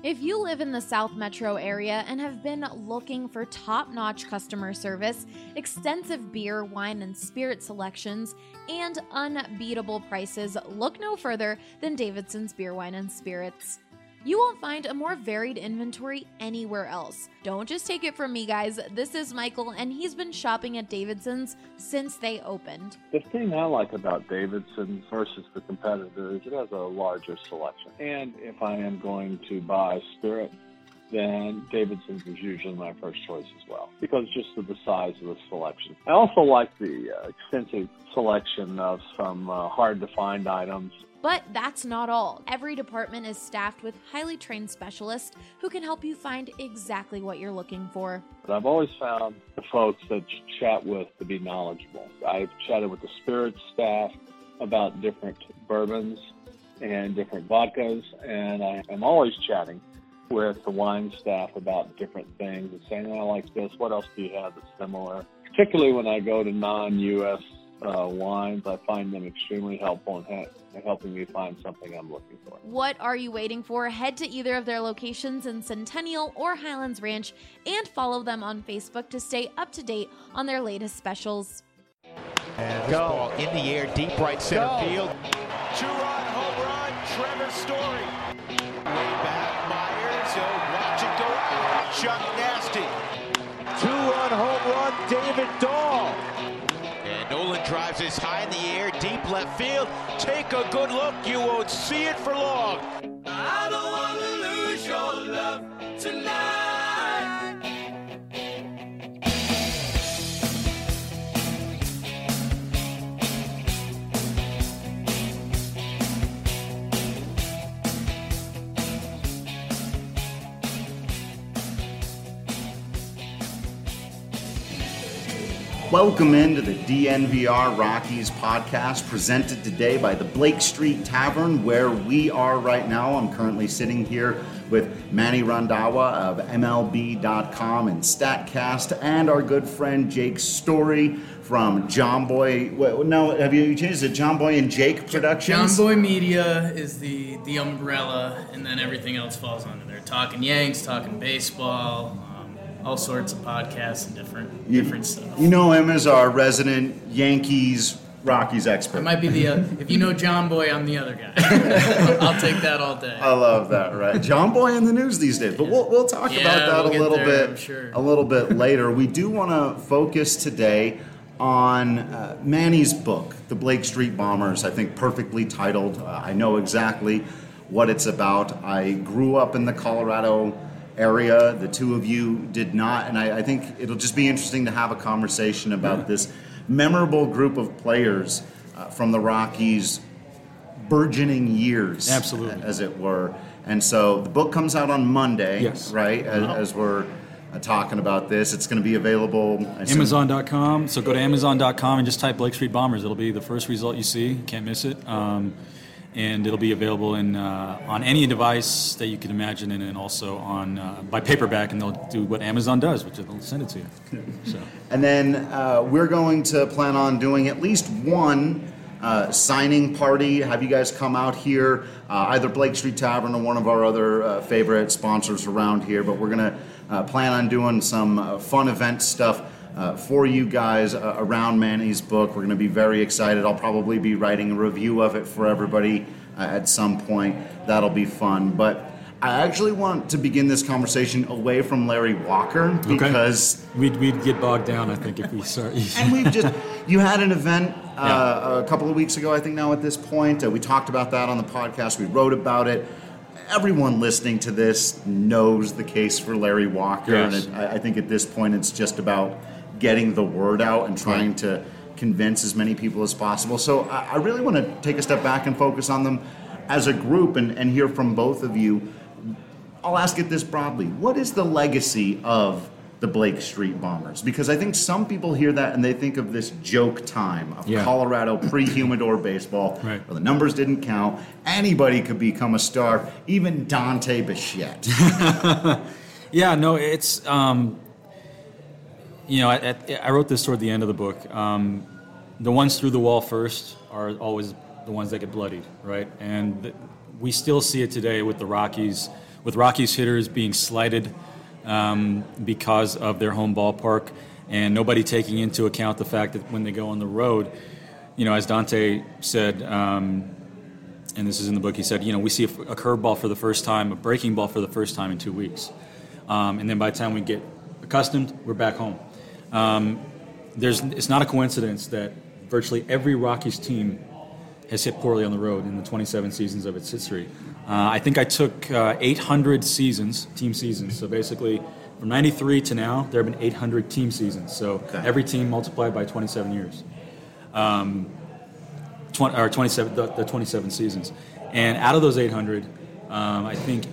If you live in the South Metro area and have been looking for top-notch customer service, extensive beer, wine, and spirit selections, and unbeatable prices, look no further than Davidson's Beer, Wine, and Spirits. You won't find a more varied inventory anywhere else. Don't just take it from me, guys. This is Michael, and he's been shopping at Davidson's since they opened. The thing I like about Davidson's versus the competitor is it has a larger selection. And if I am going to buy spirit, then Davidson's is usually my first choice as well, because just of the size of the selection. I also like the extensive selection of some hard-to-find items. But that's not all. Every department is staffed with highly trained specialists who can help you find exactly what you're looking for. But I've always found the folks that you chat with to be knowledgeable. I've chatted with the spirits staff about different bourbons and different vodkas, and I am always chatting with the wine staff about different things and saying, I like this, what else do you have that's similar? Particularly when I go to non-U.S. wines, I find them extremely helpful in helping me find something I'm looking for. What are you waiting for? Head to either of their locations in Centennial or Highlands Ranch and follow them on Facebook to stay up to date on their latest specials. And this ball in the air, deep right center field. Two-run home run, Trevor Story. Way back, Myers, watch it go out. Chuck Nasty. Two-run home run, David Dahl. And Nolan drives this high in the air, deep left field. Take a good look, you won't see it for long. I don't want to lose your love tonight. Welcome into the DNVR Rockies podcast, presented today by the Blake Street Tavern, where we are right now. I'm currently sitting here with Manny Randhawa of MLB.com and StatCast, and our good friend Jake Story from John Boy. No, have you changed it? John Boy and Jake Productions? John Boy Media is the umbrella, and then everything else falls under there. Talking Yanks, talking baseball. All sorts of podcasts and different stuff. You know him as our resident Yankees, Rockies expert. I might be if you know John Boy, I'm the other guy. I'll take that all day. I love that, right? John Boy in the news these days. But we'll talk about that a little bit later. We do want to focus today on Manny's book, The Blake Street Bombers, I think perfectly titled. I know exactly what it's about. I grew up in the Colorado area. The two of you did not, and I think it'll just be interesting to have a conversation about this memorable group of players from the Rockies' burgeoning years, absolutely, as it were. And so the book comes out on Monday, yes, right? As we're talking about this, it's going to be available Amazon.com. So go to Amazon.com and just type Blake Street Bombers. It'll be the first result you see. You can't miss it. And it'll be available on any device that you can imagine, and also on by paperback, and they'll do what Amazon does, which they'll send it to you. So. And then we're going to plan on doing at least one signing party. Have you guys come out here, either Blake Street Tavern or one of our other favorite sponsors around here, but we're going to plan on doing some fun event stuff for you guys around Manny's book. We're going to be very excited. I'll probably be writing a review of it for everybody at some point. That'll be fun. But I actually want to begin this conversation away from Larry Walker, because we'd get bogged down, I think, if we start. And you had an event a couple of weeks ago, I think now at this point. We talked about that on the podcast. We wrote about it. Everyone listening to this knows the case for Larry Walker, yes. And I think at this point it's just about getting the word out and trying to convince as many people as possible. So I really want to take a step back and focus on them as a group and hear from both of you. I'll ask it this broadly. What is the legacy of the Blake Street Bombers? Because I think some people hear that and they think of this joke time of Colorado pre-humidor baseball, right, where the numbers didn't count. Anybody could become a star, even Dante Bichette. Yeah, no, it's... I wrote this toward the end of the book. The ones through the wall first are always the ones that get bloodied, right? And we still see it today with the Rockies with Rockies hitters being slighted because of their home ballpark, and nobody taking into account the fact that when they go on the road, as Dante said, and this is in the book, he said, we see a curveball for the first time, a breaking ball for the first time in 2 weeks. And then by the time we get accustomed, we're back home. It's not a coincidence that virtually every Rockies team has hit poorly on the road in the 27 seasons of its history. I think I took 800 team seasons. So basically, from 93 to now, there have been 800 team seasons. So every team multiplied by 27 years. 27 seasons. And out of those 800, I think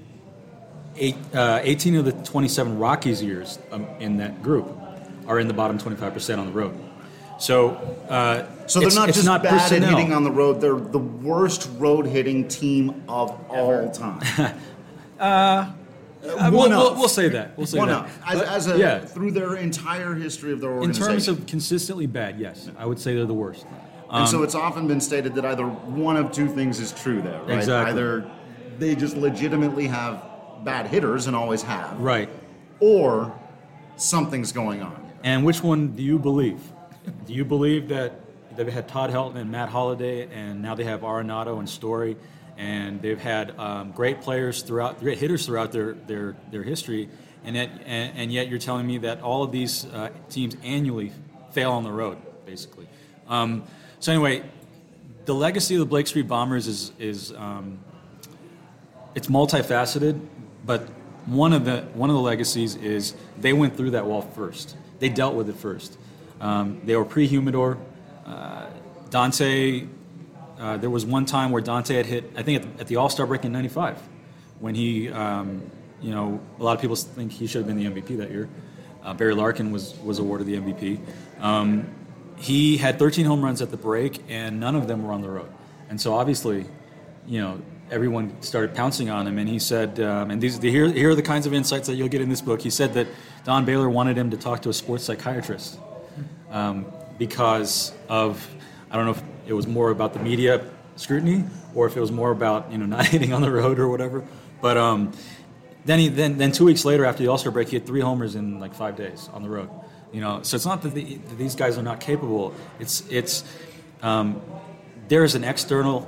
18 of the 27 Rockies years in that group are in the bottom 25% on the road. So they're not just bad personnel. at hitting on the road. They're the worst road hitting team of all time. We'll say that. We'll say that. Through their entire history of their organization. In terms of consistently bad, yes, I would say they're the worst. And so it's often been stated that either one of two things is true there, right? Exactly. Either they just legitimately have bad hitters and always have. Right. Or something's going on. And which one do you believe? Do you believe that they've had Todd Helton and Matt Holliday, and now they have Arenado and Story, and they've had great hitters throughout their history, and yet you're telling me that all of these teams annually fail on the road, basically. So anyway, the legacy of the Blake Street Bombers is it's multifaceted, but one of the legacies is they went through that wall first. They dealt with it first. They were pre-Humidor. Dante, there was one time where Dante had hit, I think at the All-Star break in '95, when he, a lot of people think he should have been the MVP that year. Barry Larkin was awarded the MVP. He had 13 home runs at the break, and none of them were on the road. And so obviously, everyone started pouncing on him, and he said, here are the kinds of insights that you'll get in this book. He said that Don Baylor wanted him to talk to a sports psychiatrist because of, I don't know if it was more about the media scrutiny or if it was more about not hitting on the road or whatever. But then 2 weeks later, after the All-Star break, he had 3 homers in like 5 days on the road. So it's not that these guys are not capable. It's there's an external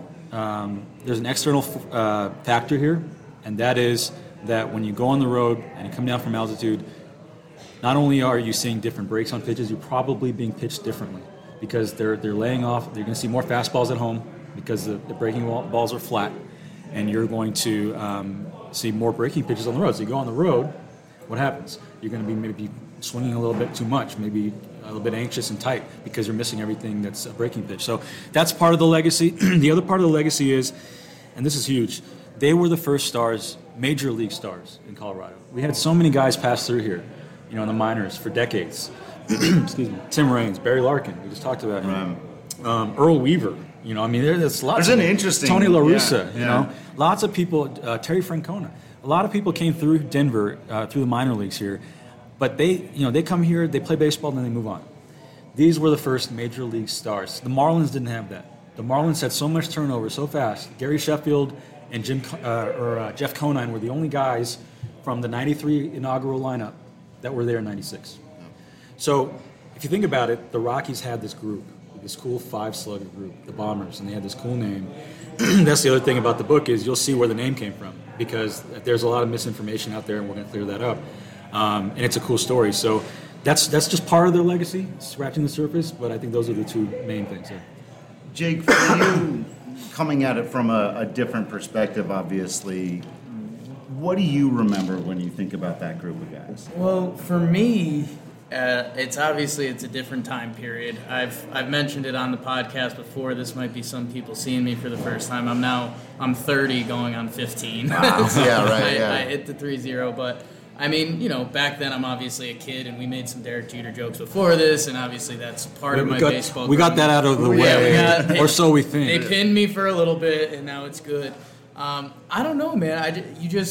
factor here, and that is that when you go on the road and you come down from altitude, not only are you seeing different breaks on pitches, you're probably being pitched differently because they're laying off. You're going to see more fastballs at home because the breaking balls are flat, and you're going to see more breaking pitches on the road. So you go on the road, what happens? You're going to be maybe swinging a little bit too much, maybe a little bit anxious and tight because you're missing everything that's a breaking pitch. So that's part of the legacy. The other part of the legacy is, and this is huge, they were the first stars, major league stars in Colorado. We had so many guys pass through here, in the minors for decades. Excuse me. Tim Raines, Barry Larkin, we just talked about him. Earl Weaver, there's lots. There's an interesting Tony La Russa, lots of people. Terry Francona, a lot of people came through Denver through the minor leagues here, but they come here, they play baseball, and then they move on. These were the first major league stars. The Marlins didn't have that. The Marlins had so much turnover so fast. Gary Sheffield and Jeff Conine were the only guys from the '93 inaugural lineup that were there in '96. So if you think about it, the Rockies had this group, this cool 5-slugger group, the Bombers, and they had this cool name. That's the other thing about the book is you'll see where the name came from because there's a lot of misinformation out there, and we're going to clear that up. And it's a cool story. So that's just part of their legacy, scratching the surface, but I think those are the two main things there. Jake, for you, coming at it from a different perspective, obviously, what do you remember when you think about that group of guys? Well, for me, it's a different time period. I've mentioned it on the podcast before. This might be some people seeing me for the first time. I'm 30 going on 15. Wow. Yeah, right. Yeah. I hit the 3-0, but back then I'm obviously a kid, and we made some Derek Jeter jokes before this, and obviously that's part of my baseball. We got that out of the way, or so we think. They pinned me for a little bit, and now it's good. I don't know, man.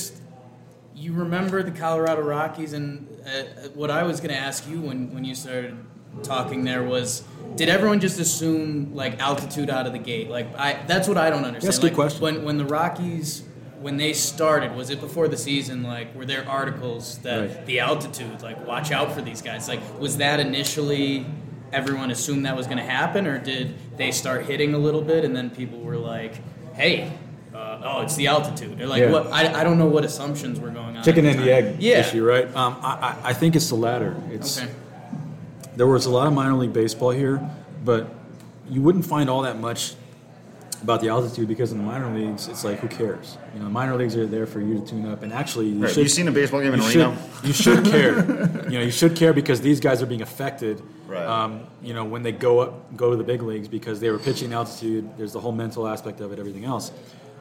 You remember the Colorado Rockies, and what I was going to ask you when you started talking there was, did everyone just assume altitude out of the gate? That's what I don't understand. That's a good question. When the Rockies when they started, was it before the season, like, were there articles that the altitude, like, watch out for these guys? Like, was that initially everyone assumed that was going to happen, or did they start hitting a little bit and then people were like, hey, it's the altitude? Or like, what? I don't know what assumptions were going on. Chicken and the egg issue, right? I think it's the latter. There was a lot of minor league baseball here, but you wouldn't find all that much about the altitude because in the minor leagues, it's like, who cares? You know, minor leagues are there for you to tune up, and actually, you seen a baseball game in Reno? You should care. You know, you should care because these guys are being affected. Right. You know, when they go to the big leagues because they were pitching altitude. There's the whole mental aspect of it, everything else.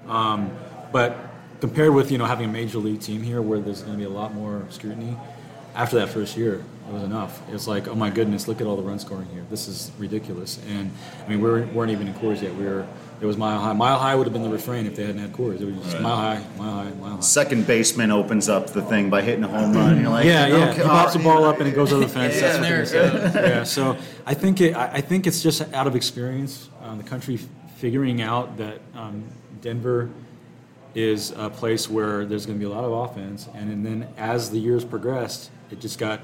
But compared with having a major league team here where there's going to be a lot more scrutiny, after that first year, it was enough. It's like, oh my goodness, look at all the run scoring here. This is ridiculous. And I mean, we weren't even in Coors yet. It was Mile High. Mile High would have been the refrain if they hadn't had Coors. It was just Mile High, Mile High, Mile High. Second baseman opens up the thing by hitting a home run. You're like, okay, he pops the ball up and it goes over the fence. That's what there it goes. Yeah, so I think it's just out of experience, the country figuring out that Denver is a place where there's going to be a lot of offense, and then as the years progressed, it just got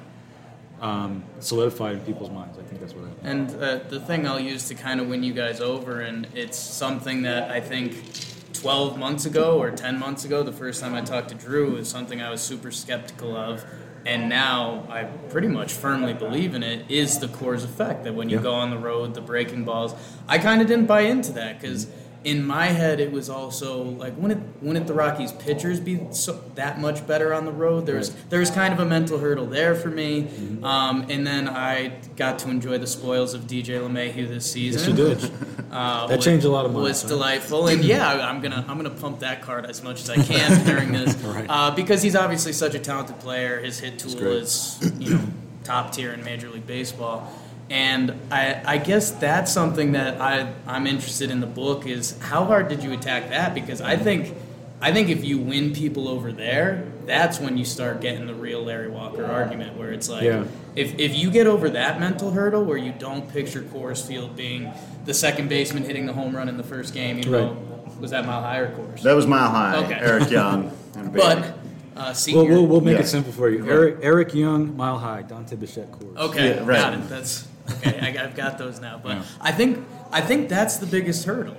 solidified in people's minds. I think that's what happened. And the thing I'll use to kind of win you guys over, and it's something that I think 12 months ago or 10 months ago, the first time I talked to Drew, is something I was super skeptical of, and now I pretty much firmly believe in it, is the Coors effect, that when you go on the road, the breaking balls. I kind of didn't buy into that because in my head, it was also like, wouldn't the Rockies pitchers be that much better on the road? There was kind of a mental hurdle there for me, and then I got to enjoy the spoils of DJ LeMahieu this season. Yes, you did. That changed a lot of minds. Was delightful, and I'm gonna pump that card as much as I can during this, because he's obviously such a talented player. His hit tool is top tier in Major League Baseball. And I guess that's something that I'm interested in the book is how hard did you attack that? Because I think if you win people over there, that's when you start getting the real Larry Walker argument where it's like if you get over that mental hurdle where you don't picture Coors Field being the second baseman hitting the home run in the first game, was that Mile High or Coors? That was Mile High. Okay. Eric Young. But we'll make it simple for you. Eric Young, Mile High, Dante Bichette, Coors. Okay, got it. That's okay. I've got those now. But I think that's the biggest hurdle.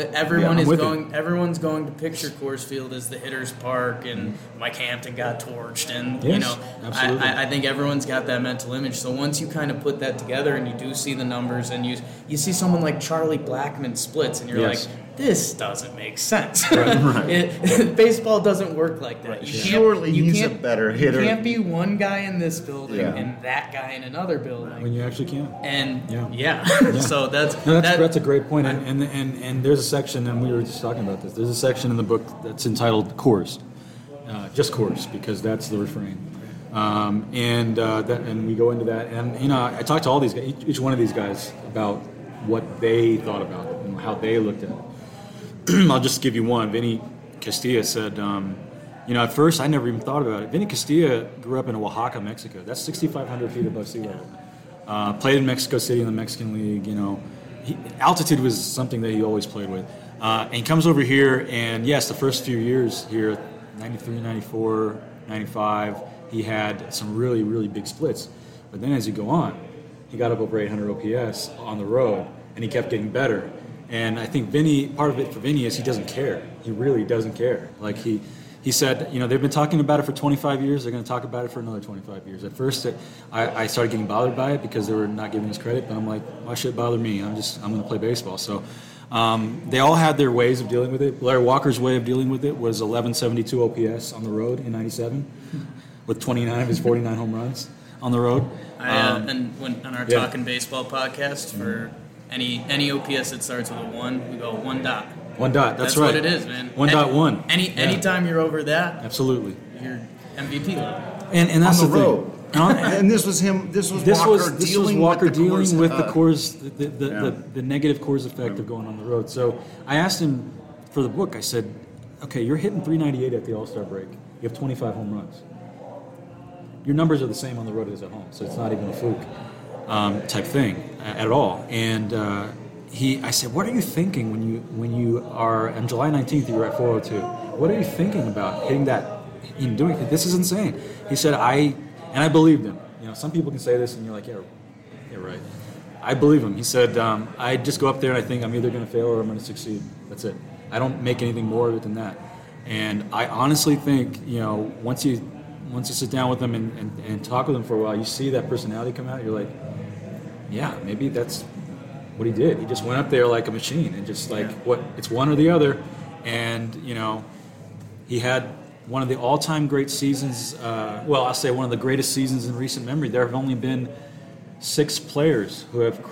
Everyone's going to picture Coors Field as the hitter's park, and Mike Hampton got torched, and I think everyone's got that mental image. So once you kind of put that together, and you do see the numbers, and you see someone like Charlie Blackmon splits, and you're like, this doesn't make sense. Baseball doesn't work like that. Surely he's a better hitter. You can't be one guy in this building and that guy in another building. When you actually can. And so that's a great point. And there's a section, and we were just talking about this. There's a section in the book that's entitled Coors, just Coors, because that's the refrain. And we go into that, and I talked to all these guys, each one of these guys, about what they thought about it and how they looked at it. I'll just give you one. Vinny Castilla said, at first I never even thought about it. Vinny Castilla grew up in Oaxaca, Mexico. That's 6,500 feet above sea level. Played in Mexico City in the Mexican League. Altitude was something that he always played with. And he comes over here, and yes, the first few years here, 93, 94, 95, he had some really, really big splits. But then as you go on, he got up over 800 OPS on the road, and he kept getting better. And I think part of it for Vinny is he doesn't care. He really doesn't care. Like he said, they've been talking about it for 25 years. They're going to talk about it for another 25 years. At first, I started getting bothered by it because they were not giving us credit. But I'm like, why should it bother me? I'm going to play baseball. So they all had their ways of dealing with it. Larry Walker's way of dealing with it was 1172 OPS on the road in '97, with 29 of his 49 home runs on the road. And on our Talking Baseball podcast for. Any OPS that starts with a 1, we go 1 dot. 1 dot, that's right. That's what it is, man. 1.1. Anytime you're over that, absolutely, you're MVP level. And that's on the the road. And this was him. This was Walker dealing with the Coors, the negative Coors effect of going on the road. So I asked him for the book. I said, "Okay, you're hitting 398 at the All-Star break. You have 25 home runs. Your numbers are the same on the road as at home, so it's not even a fluke." Type thing at all. And I said, what are you thinking when you are on July 19th? You were at 402. what are you thinking about hitting that, doing it? This is insane. He said, I believed him. Some people can say this and you're like, yeah, right. I believe him. He said, I just go up there and I think I'm either going to fail or I'm going to succeed. That's it. I don't make anything more of it than that. And I honestly think, once you sit down with them and talk with them for a while, you see that personality come out. You're like, yeah, maybe that's what he did. He just went up there like a machine and just it's one or the other. And, he had one of the all-time great seasons. I'll say one of the greatest seasons in recent memory. There have only been 6 players who have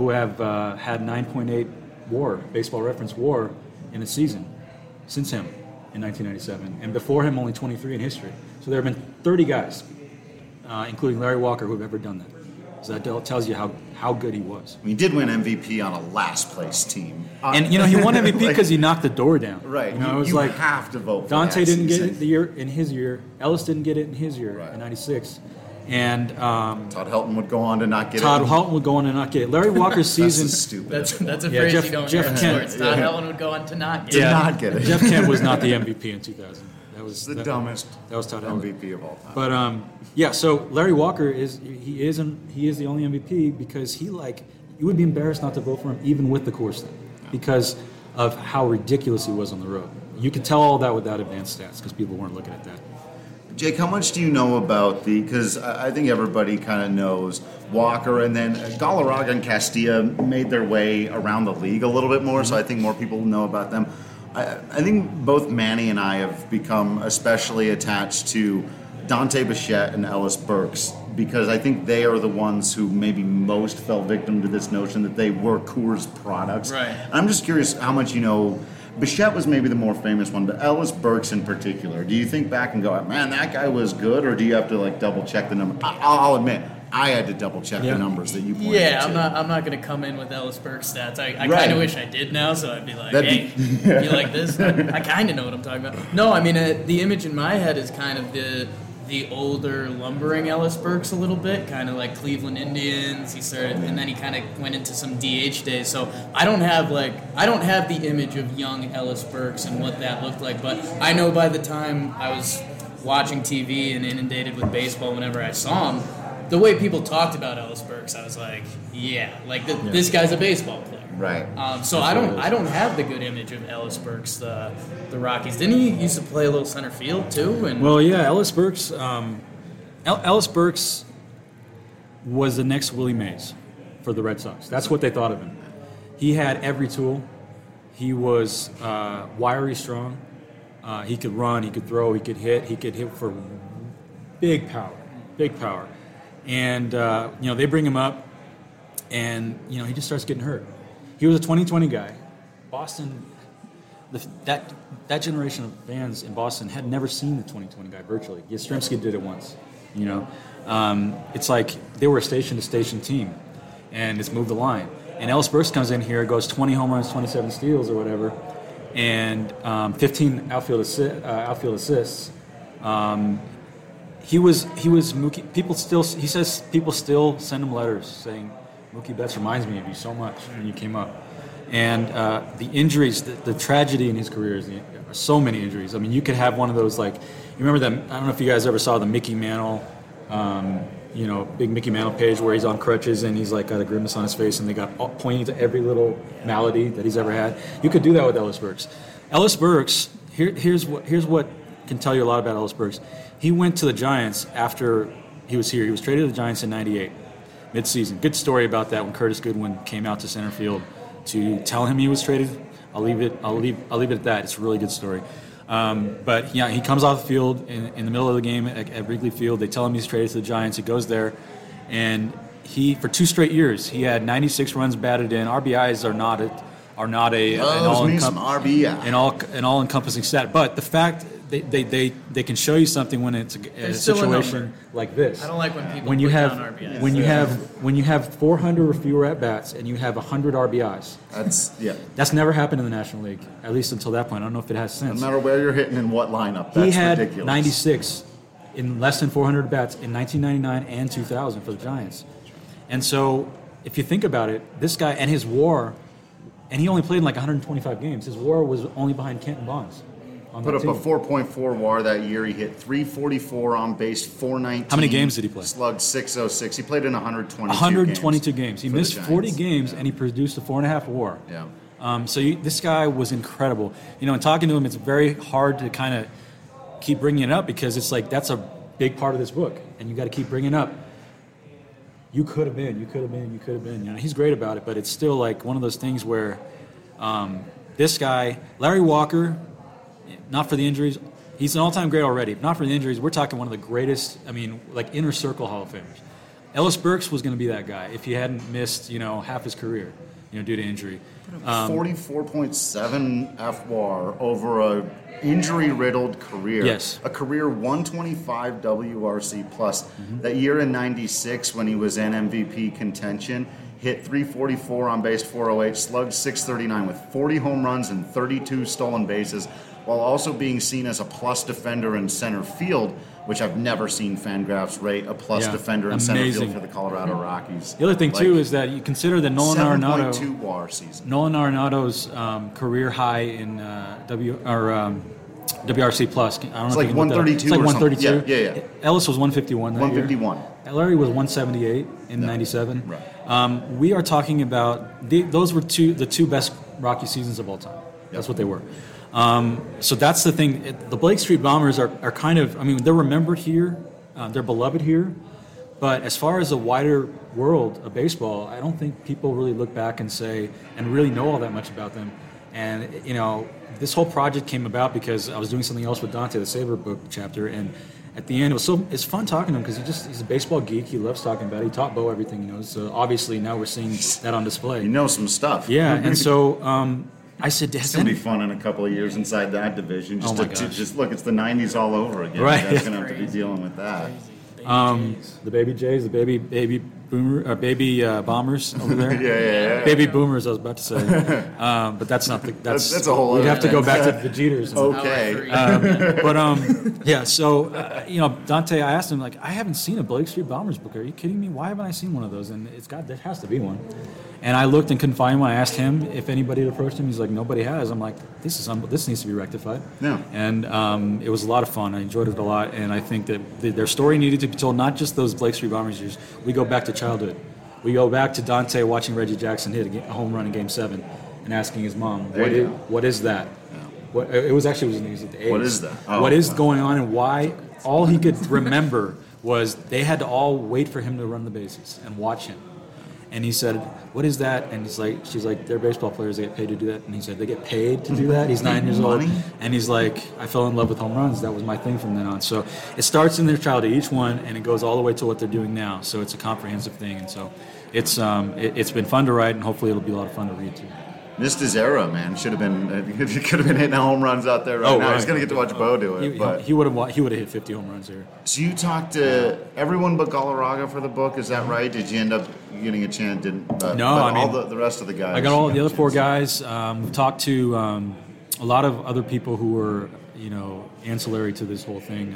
had 9.8 WAR, Baseball Reference WAR, in a season since him in 1997, and before him only 23 in history. So there have been 30 guys, including Larry Walker, who have ever done that. So that tells you how good he was. He did win MVP on a last place team. And he won MVP because he knocked the door down. Right. It was you have to vote for Dante that didn't season. get it the year in his year. Ellis didn't get it in his year in '96. And Todd Helton would go on to not get it. Todd Helton would go on to not get it. Larry Walker's season. That's stupid. That's a phrase you don't hear in Kent. sports. Todd Helton would go on to not get To it. not get it. Jeff Kent was not the MVP in 2000. That was the dumbest That was Todd Helton. MVP of all time. But so Larry Walker is the only MVP because you would be embarrassed not to vote for him even with the Coors thing because of how ridiculous he was on the road. You could tell all that without advanced stats because people weren't looking at that. Jake, how much do you know about because I think everybody kind of knows Walker, and then Galarraga and Castilla made their way around the league a little bit more, so I think more people know about them. I think both Manny and I have become especially attached to Dante Bichette and Ellis Burks because I think they are the ones who maybe most fell victim to this notion that they were Coors products. Right. And I'm just curious how much you know. Bichette was maybe the more famous one, but Ellis Burks in particular, do you think back and go, man, that guy was good, or do you have to double check the number? I'll admit, I had to double check the numbers that you pointed to. Yeah, I'm not going to come in with Ellis Burks stats. I kind of wish I did now, so I'd be like, you like this? I kind of know what I'm talking about. No, I mean, the image in my head is kind of the older lumbering Ellis Burks a little bit, kind of like Cleveland Indians. He started, and then he kind of went into some DH days. So I don't have the image of young Ellis Burks and what that looked like. But I know by the time I was watching TV and inundated with baseball, whenever I saw him, the way people talked about Ellis Burks, I was like, this guy's a baseball player. Right. So I don't have the good image of Ellis Burks, the Rockies. Didn't he used to play a little center field too? And Ellis Burks. Ellis Burks was the next Willie Mays for the Red Sox. That's what they thought of him. He had every tool. He was wiry, strong. He could run. He could throw. He could hit. He could hit for big power. And they bring him up, and he just starts getting hurt. He was a 2020 guy. Boston, that generation of fans in Boston had never seen the 2020 guy virtually. Yastrzemski did it once. It's like they were a station-to-station team, and it's moved the line. And Ellis Burks comes in here, goes 20 home runs, 27 steals or whatever, and 15 outfield assists. He was Mookie. He says people still send him letters saying, Mookie Betts reminds me of you so much when you came up. And the injuries, the tragedy in his career is so many injuries. I mean, you could have one of those, you remember that, I don't know if you guys ever saw the Mickey Mantle, big Mickey Mantle page where he's on crutches and he's got a grimace on his face and they got pointing to every little malady that he's ever had. You could do that with Ellis Burks. Ellis Burks, here's what can tell you a lot about Ellis Burks. He went to the Giants after he was here. He was traded to the Giants in '98. Mid-season. Good story about that when Curtis Goodwin came out to center field to tell him he was traded. I'll leave it at that. It's a really good story. But he comes off the field in the middle of the game at Wrigley Field. They tell him he's traded to the Giants. He goes there, and for 2 straight years he had 96 runs batted in. RBIs are not an all-encompassing stat. But the fact they can show you something when it's a situation like this. I don't like when people put down RBIs. When you have 400 or fewer at bats and you have 100 RBIs. That's never happened in the National League, at least until that point. I don't know if it has since. No matter where you're hitting and what lineup, that's ridiculous. He had ridiculous. 96 in less than 400 bats in 1999 and 2000 for the Giants. And so, if you think about it, this guy and his WAR, and he only played in 125 games. His WAR was only behind Kenton Bonds on Put that up team. a 4.4 WAR that year. He hit 344 on base, 419. How many games did he play? Slugged 606. He played in 122 122 games. He for the missed 40 Giants. games, and he produced a 4.5 WAR. Yeah. This guy was incredible. You know, in talking to him, it's very hard to kind of keep bringing it up because it's like that's a big part of this book, and you got to keep bringing it up. You could have been. You know, he's great about it, but it's still like one of those things where this guy, Larry Walker, not for the injuries, he's an all-time great already. Not for the injuries, we're talking one of the greatest. I mean, like inner circle Hall of Famers. Ellis Burks was going to be that guy if he hadn't missed, half his career, due to injury. 44.7 FWAR over a injury-riddled career. Yes. A career 125 WRC plus. That year in 96 when he was in MVP contention, hit 344 on base, 408, slugged 639 with 40 home runs and 32 stolen bases, while also being seen as a plus defender in center field, which I've never seen Fangraphs rate a plus defender in center field for the Colorado Rockies. The other thing, too, is that you consider that Nolan Arenado... 7.2 WAR season. Nolan Arenado's career high in WRC plus. I don't know. It's like 132. It's like 132. Yeah. Ellis was 151 that 151. year. Larry was 178 in 97. Right. We are talking about those were the two best Rocky seasons of all time. That's what they were. So that's the thing. The Blake Street Bombers are kind of, they're remembered here, they're beloved here, but as far as the wider world of baseball, I don't think people really look back and say, and really know all that much about them. And, this whole project came about because I was doing something else with Dante, the Saber book chapter, and at the end, it's fun talking to him because he's a baseball geek. He loves talking about it. He taught Bo everything he knows. So obviously now we're seeing that on display. You know some stuff. Yeah, and so I said, it's going to be fun in a couple of years inside that division. Just look, it's the 90s all over again. Right. You guys are going to have to be dealing with that. The baby Jays, the baby boomer, baby bombers over there. yeah. Baby boomers, I was about to say, but that's not the. That's a whole. We'd other have to thing. go back to the Jeters. Okay. Yeah. So Dante, I asked him like, I haven't seen a Blake Street Bombers book. Are you kidding me? Why haven't I seen one of those? And there has to be one. And I looked and couldn't find one. I asked him if anybody had approached him. He's like, nobody has. I'm like, this needs to be rectified. Yeah. And it was a lot of fun. I enjoyed it a lot. And I think that their story needed to be told, not just those Blake Street Bombers years. We go back to childhood. We go back to Dante watching Reggie Jackson hit a home run in Game 7 and asking his mom, what is that? Yeah. It was actually the news at the A's. What is that? What is going on and why? All he could remember was they had to all wait for him to run the bases and watch him. And he said, what is that? And she's like, they're baseball players. They get paid to do that. And he said, they get paid to do that? He's 9 years old. And he's like, I fell in love with home runs. That was my thing from then on. So it starts in their childhood, each one, and it goes all the way to what they're doing now. So it's a comprehensive thing. And so it's been fun to write, and hopefully it'll be a lot of fun to read, too. Missed his era, man. Should have been. He could have been hitting home runs out there right now. He's gonna get to watch Bo do it. He would have hit 50 home runs here. So you talked to everyone but Galarraga for the book. Is that right? Did you end up getting a chance? No, all the rest of the guys. I got all the other 4 guys. We've talked to a lot of other people who were ancillary to this whole thing.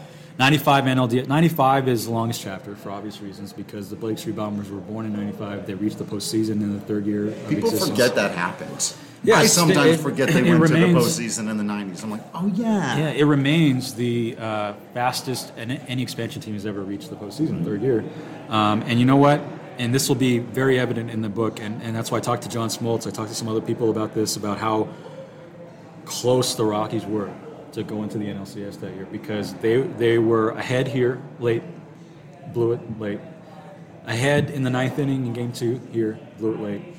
95 NLDS. 95 is the longest chapter for obvious reasons because the Blake Street Bombers were born in 95. They reached the postseason in the third year of People existence. forget that happened. Yes, I sometimes forget they went to the remains, postseason in the 90s. I'm like, oh, yeah. Yeah, it remains the fastest any expansion team has ever reached the postseason, third year. And you know what? And this will be very evident in the book, and that's why I talked to John Smoltz. I talked to some other people about this, about how close the Rockies were to go into the NLCS that year because they were ahead here late, blew it late. Ahead in the 9th inning in Game 2 here, blew it late.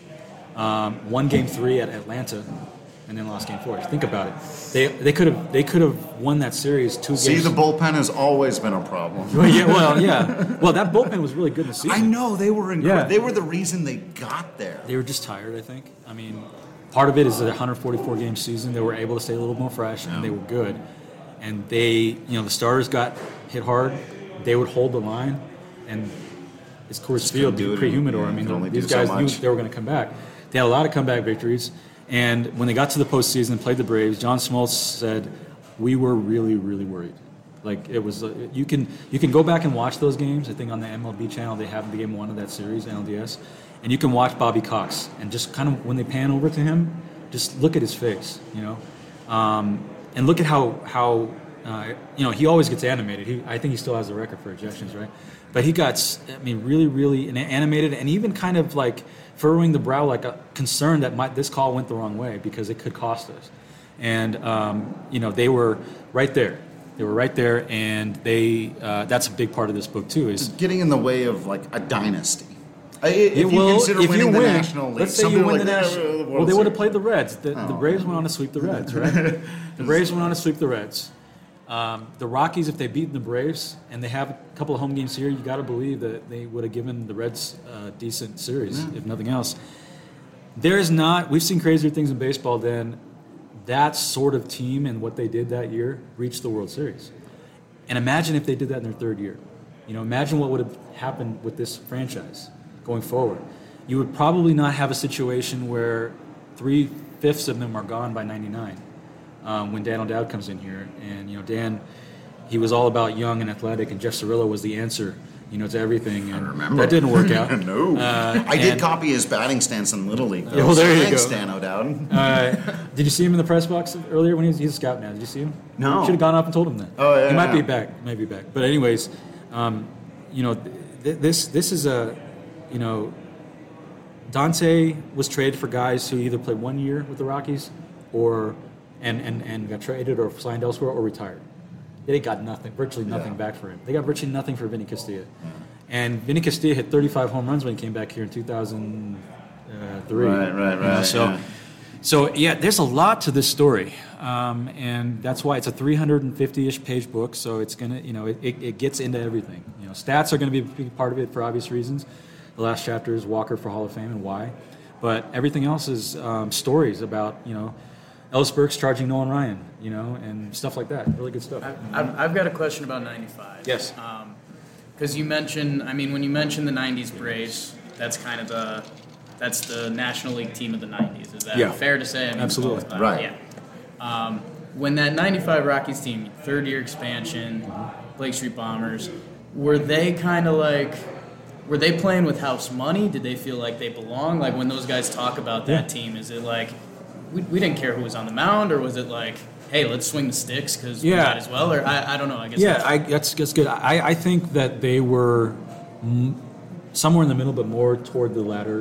Won Game 3 at Atlanta, and then lost Game 4. Think about it. They could have won that series 2 games. See, the bullpen has always been a problem. Well, yeah. Well, that bullpen was really good in the season. I know they were incredible. Yeah. They were the reason they got there. They were just tired, I think. Part of it is a 144-game season. They were able to stay a little more fresh, and they were good. And the starters got hit hard. They would hold the line, and it's Coors Field, pre-humidor. These guys knew they were going to come back. They had a lot of comeback victories, and when they got to the postseason and played the Braves, John Smoltz said, "We were really, really worried." Like it was, you can go back and watch those games. I think on the MLB channel they have Game 1 of that series, NLDS. And you can watch Bobby Cox, and just kind of when they pan over to him, just look at his face, and look at how he always gets animated. I think he still has the record for ejections, right? But he got, really, really animated, and even kind of like furrowing the brow, like a concern that this call went the wrong way because it could cost us. And they were right there. They were right there, and that's a big part of this book too. Is getting in the way of like a dynasty. If you consider winning the National League, let's say you win the National. Well, they would have played the Reds. The Braves went on to sweep the Reds, right? The Braves went on to sweep the Reds. The Rockies, if they beat the Braves and they have a couple of home games here, you got to believe that they would have given the Reds a decent series, if nothing else. We've seen crazier things in baseball than that sort of team and what they did that year reached the World Series. And imagine if they did that in their third year. Imagine what would have happened with this franchise going forward. You would probably not have a situation where 3/5 of them are gone by 99. When Dan O'Dowd comes in here, and Dan, he was all about young and athletic, and Jeff Cirillo was the answer, to everything. And I remember that didn't work out. No, I did copy his batting stance in Little League. Well, there you Thanks, go. Dan O'Dowd. Did you see him in the press box earlier when he's a scout now? Did you see him? No. Should have gone up and told him that. Oh yeah. He might be back. Maybe back. But anyways, this is a, Dante was traded for guys who either played 1 year with the Rockies or and got traded or signed elsewhere or retired. They got virtually nothing back for him. They got virtually nothing for Vinny Castilla. And Vinny Castilla hit 35 home runs when he came back here in 2003. Right. So there's a lot to this story, and that's why it's a 350-ish page book. So it's gonna, it gets into everything. Stats are going to be a big part of it for obvious reasons. The last chapter is Walker for Hall of Fame and why, but everything else is stories about Ellis Burks charging Nolan Ryan, and stuff like that. Really good stuff. I've got a question about 95. Yes. Because you mentioned, when you mentioned the 90s Braves, that's kind of the National League team of the 90s. Is that fair to say? Absolutely. Right. Yeah. When that 95 Rockies team, third-year expansion, Blake Street Bombers, were they playing with house money? Did they feel like they belong? Like when those guys talk about that team, is it like, we didn't care who was on the mound, or was it like, hey, let's swing the sticks because we might as well? Or I don't know. I guess that's good. I think that they were somewhere in the middle, but more toward the latter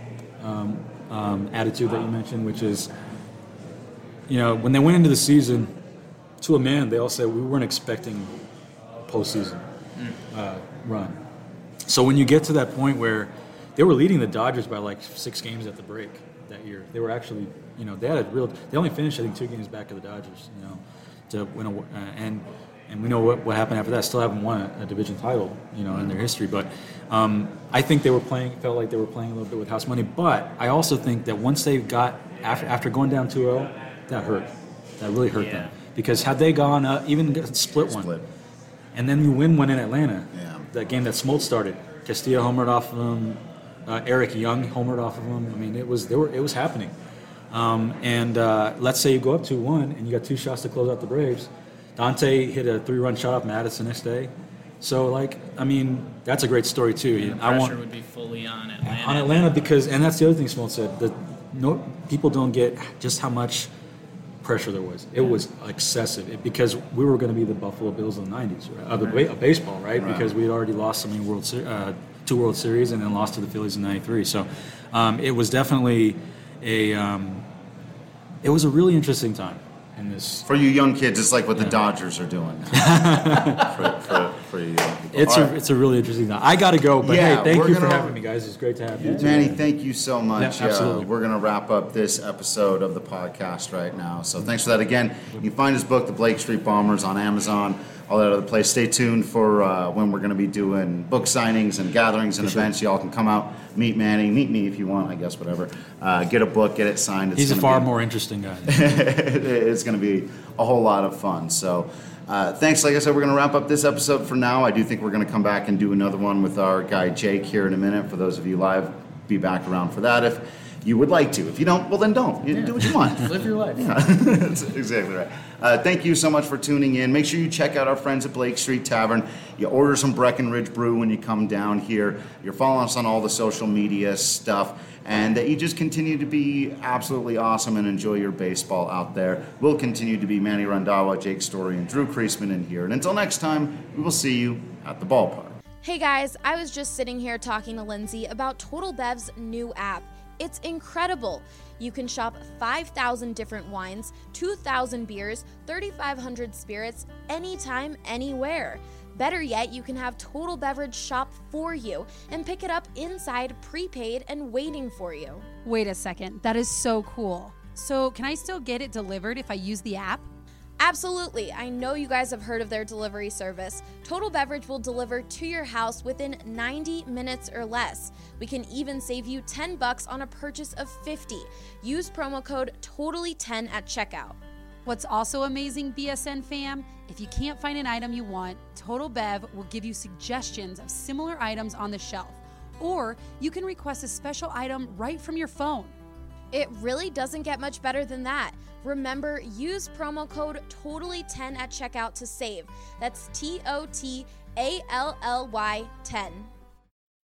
attitude that you mentioned, which is, when they went into the season, to a man, they all said we weren't expecting a postseason run. So when you get to that point where they were leading the Dodgers by like 6 games at the break that year, they were actually, they only finished, I think, 2 games back of the Dodgers, to win and we know what happened after that. Still haven't won a division title, in their history. But I think felt like they were playing a little bit with house money. But I also think that once they got, after going down 2-0, that hurt. That really hurt them. Because had they gone even split one, and then you win one in Atlanta, that game that Smoltz started, Castillo homered off of them, Eric Young homered off of them. It was happening. And let's say you go up 2-1 and you got 2 shots to close out the Braves. Dante hit a 3-run shot off Mattis the next day. So, that's a great story, too. Pressure would be fully on Atlanta. On Atlanta because, and that's the other thing Smoltz said, people don't get just how much pressure there was. It was excessive because we were going to be the Buffalo Bills of the 90s, right? Of baseball, right? Because we had already lost so many 2 World Series and then lost to the Phillies in '93. So it was definitely it was a really interesting time in this. For you young kids, it's like what the Dodgers are doing for you young people. It's a really interesting time. I got to go, but hey, thank you for having me, guys. It's great to have you. Manny, thank you so much. Yeah, absolutely. We're going to wrap up this episode of the podcast right now. So thanks for that again. You can find his book, The Blake Street Bombers, on Amazon, all that other place. Stay tuned for when we're going to be doing book signings and gatherings and events. Y'all can come out, meet Manny, meet me if you want, I guess, whatever. Get a book, get it signed. He's a far more interesting guy. It's going to be a whole lot of fun. So thanks. Like I said, we're going to wrap up this episode for now. I do think we're going to come back and do another one with our guy Jake here in a minute. For those of you live, be back around for that. you would like to. If you don't, well then don't. You do what you want. Live your life. Yeah, that's exactly right. Thank you so much for tuning in. Make sure you check out our friends at Blake Street Tavern. You order some Breckenridge Brew when you come down here. You're following us on all the social media stuff. And that you just continue to be absolutely awesome and enjoy your baseball out there. We'll continue to be Manny Randhawa, Jake Story, and Drew Kreisman in here. And until next time, we will see you at the ballpark. Hey guys, I was just sitting here talking to Lindsay about Total Bev's new app. It's incredible. You can shop 5,000 different wines, 2,000 beers, 3,500 spirits, anytime, anywhere. Better yet, you can have Total Beverage shop for you and pick it up inside, prepaid, and waiting for you. Wait a second, that is so cool. So can I still get it delivered if I use the app? Absolutely. I know you guys have heard of their delivery service. Total Beverage will deliver to your house within 90 minutes or less. We can even save you $10 on a purchase of $50. Use promo code TOTALLY10 at checkout. What's also amazing, BSN fam, if you can't find an item you want, Total Bev will give you suggestions of similar items on the shelf. Or you can request a special item right from your phone. It really doesn't get much better than that. Remember, use promo code TOTALLY10 at checkout to save. That's TOTALLY10.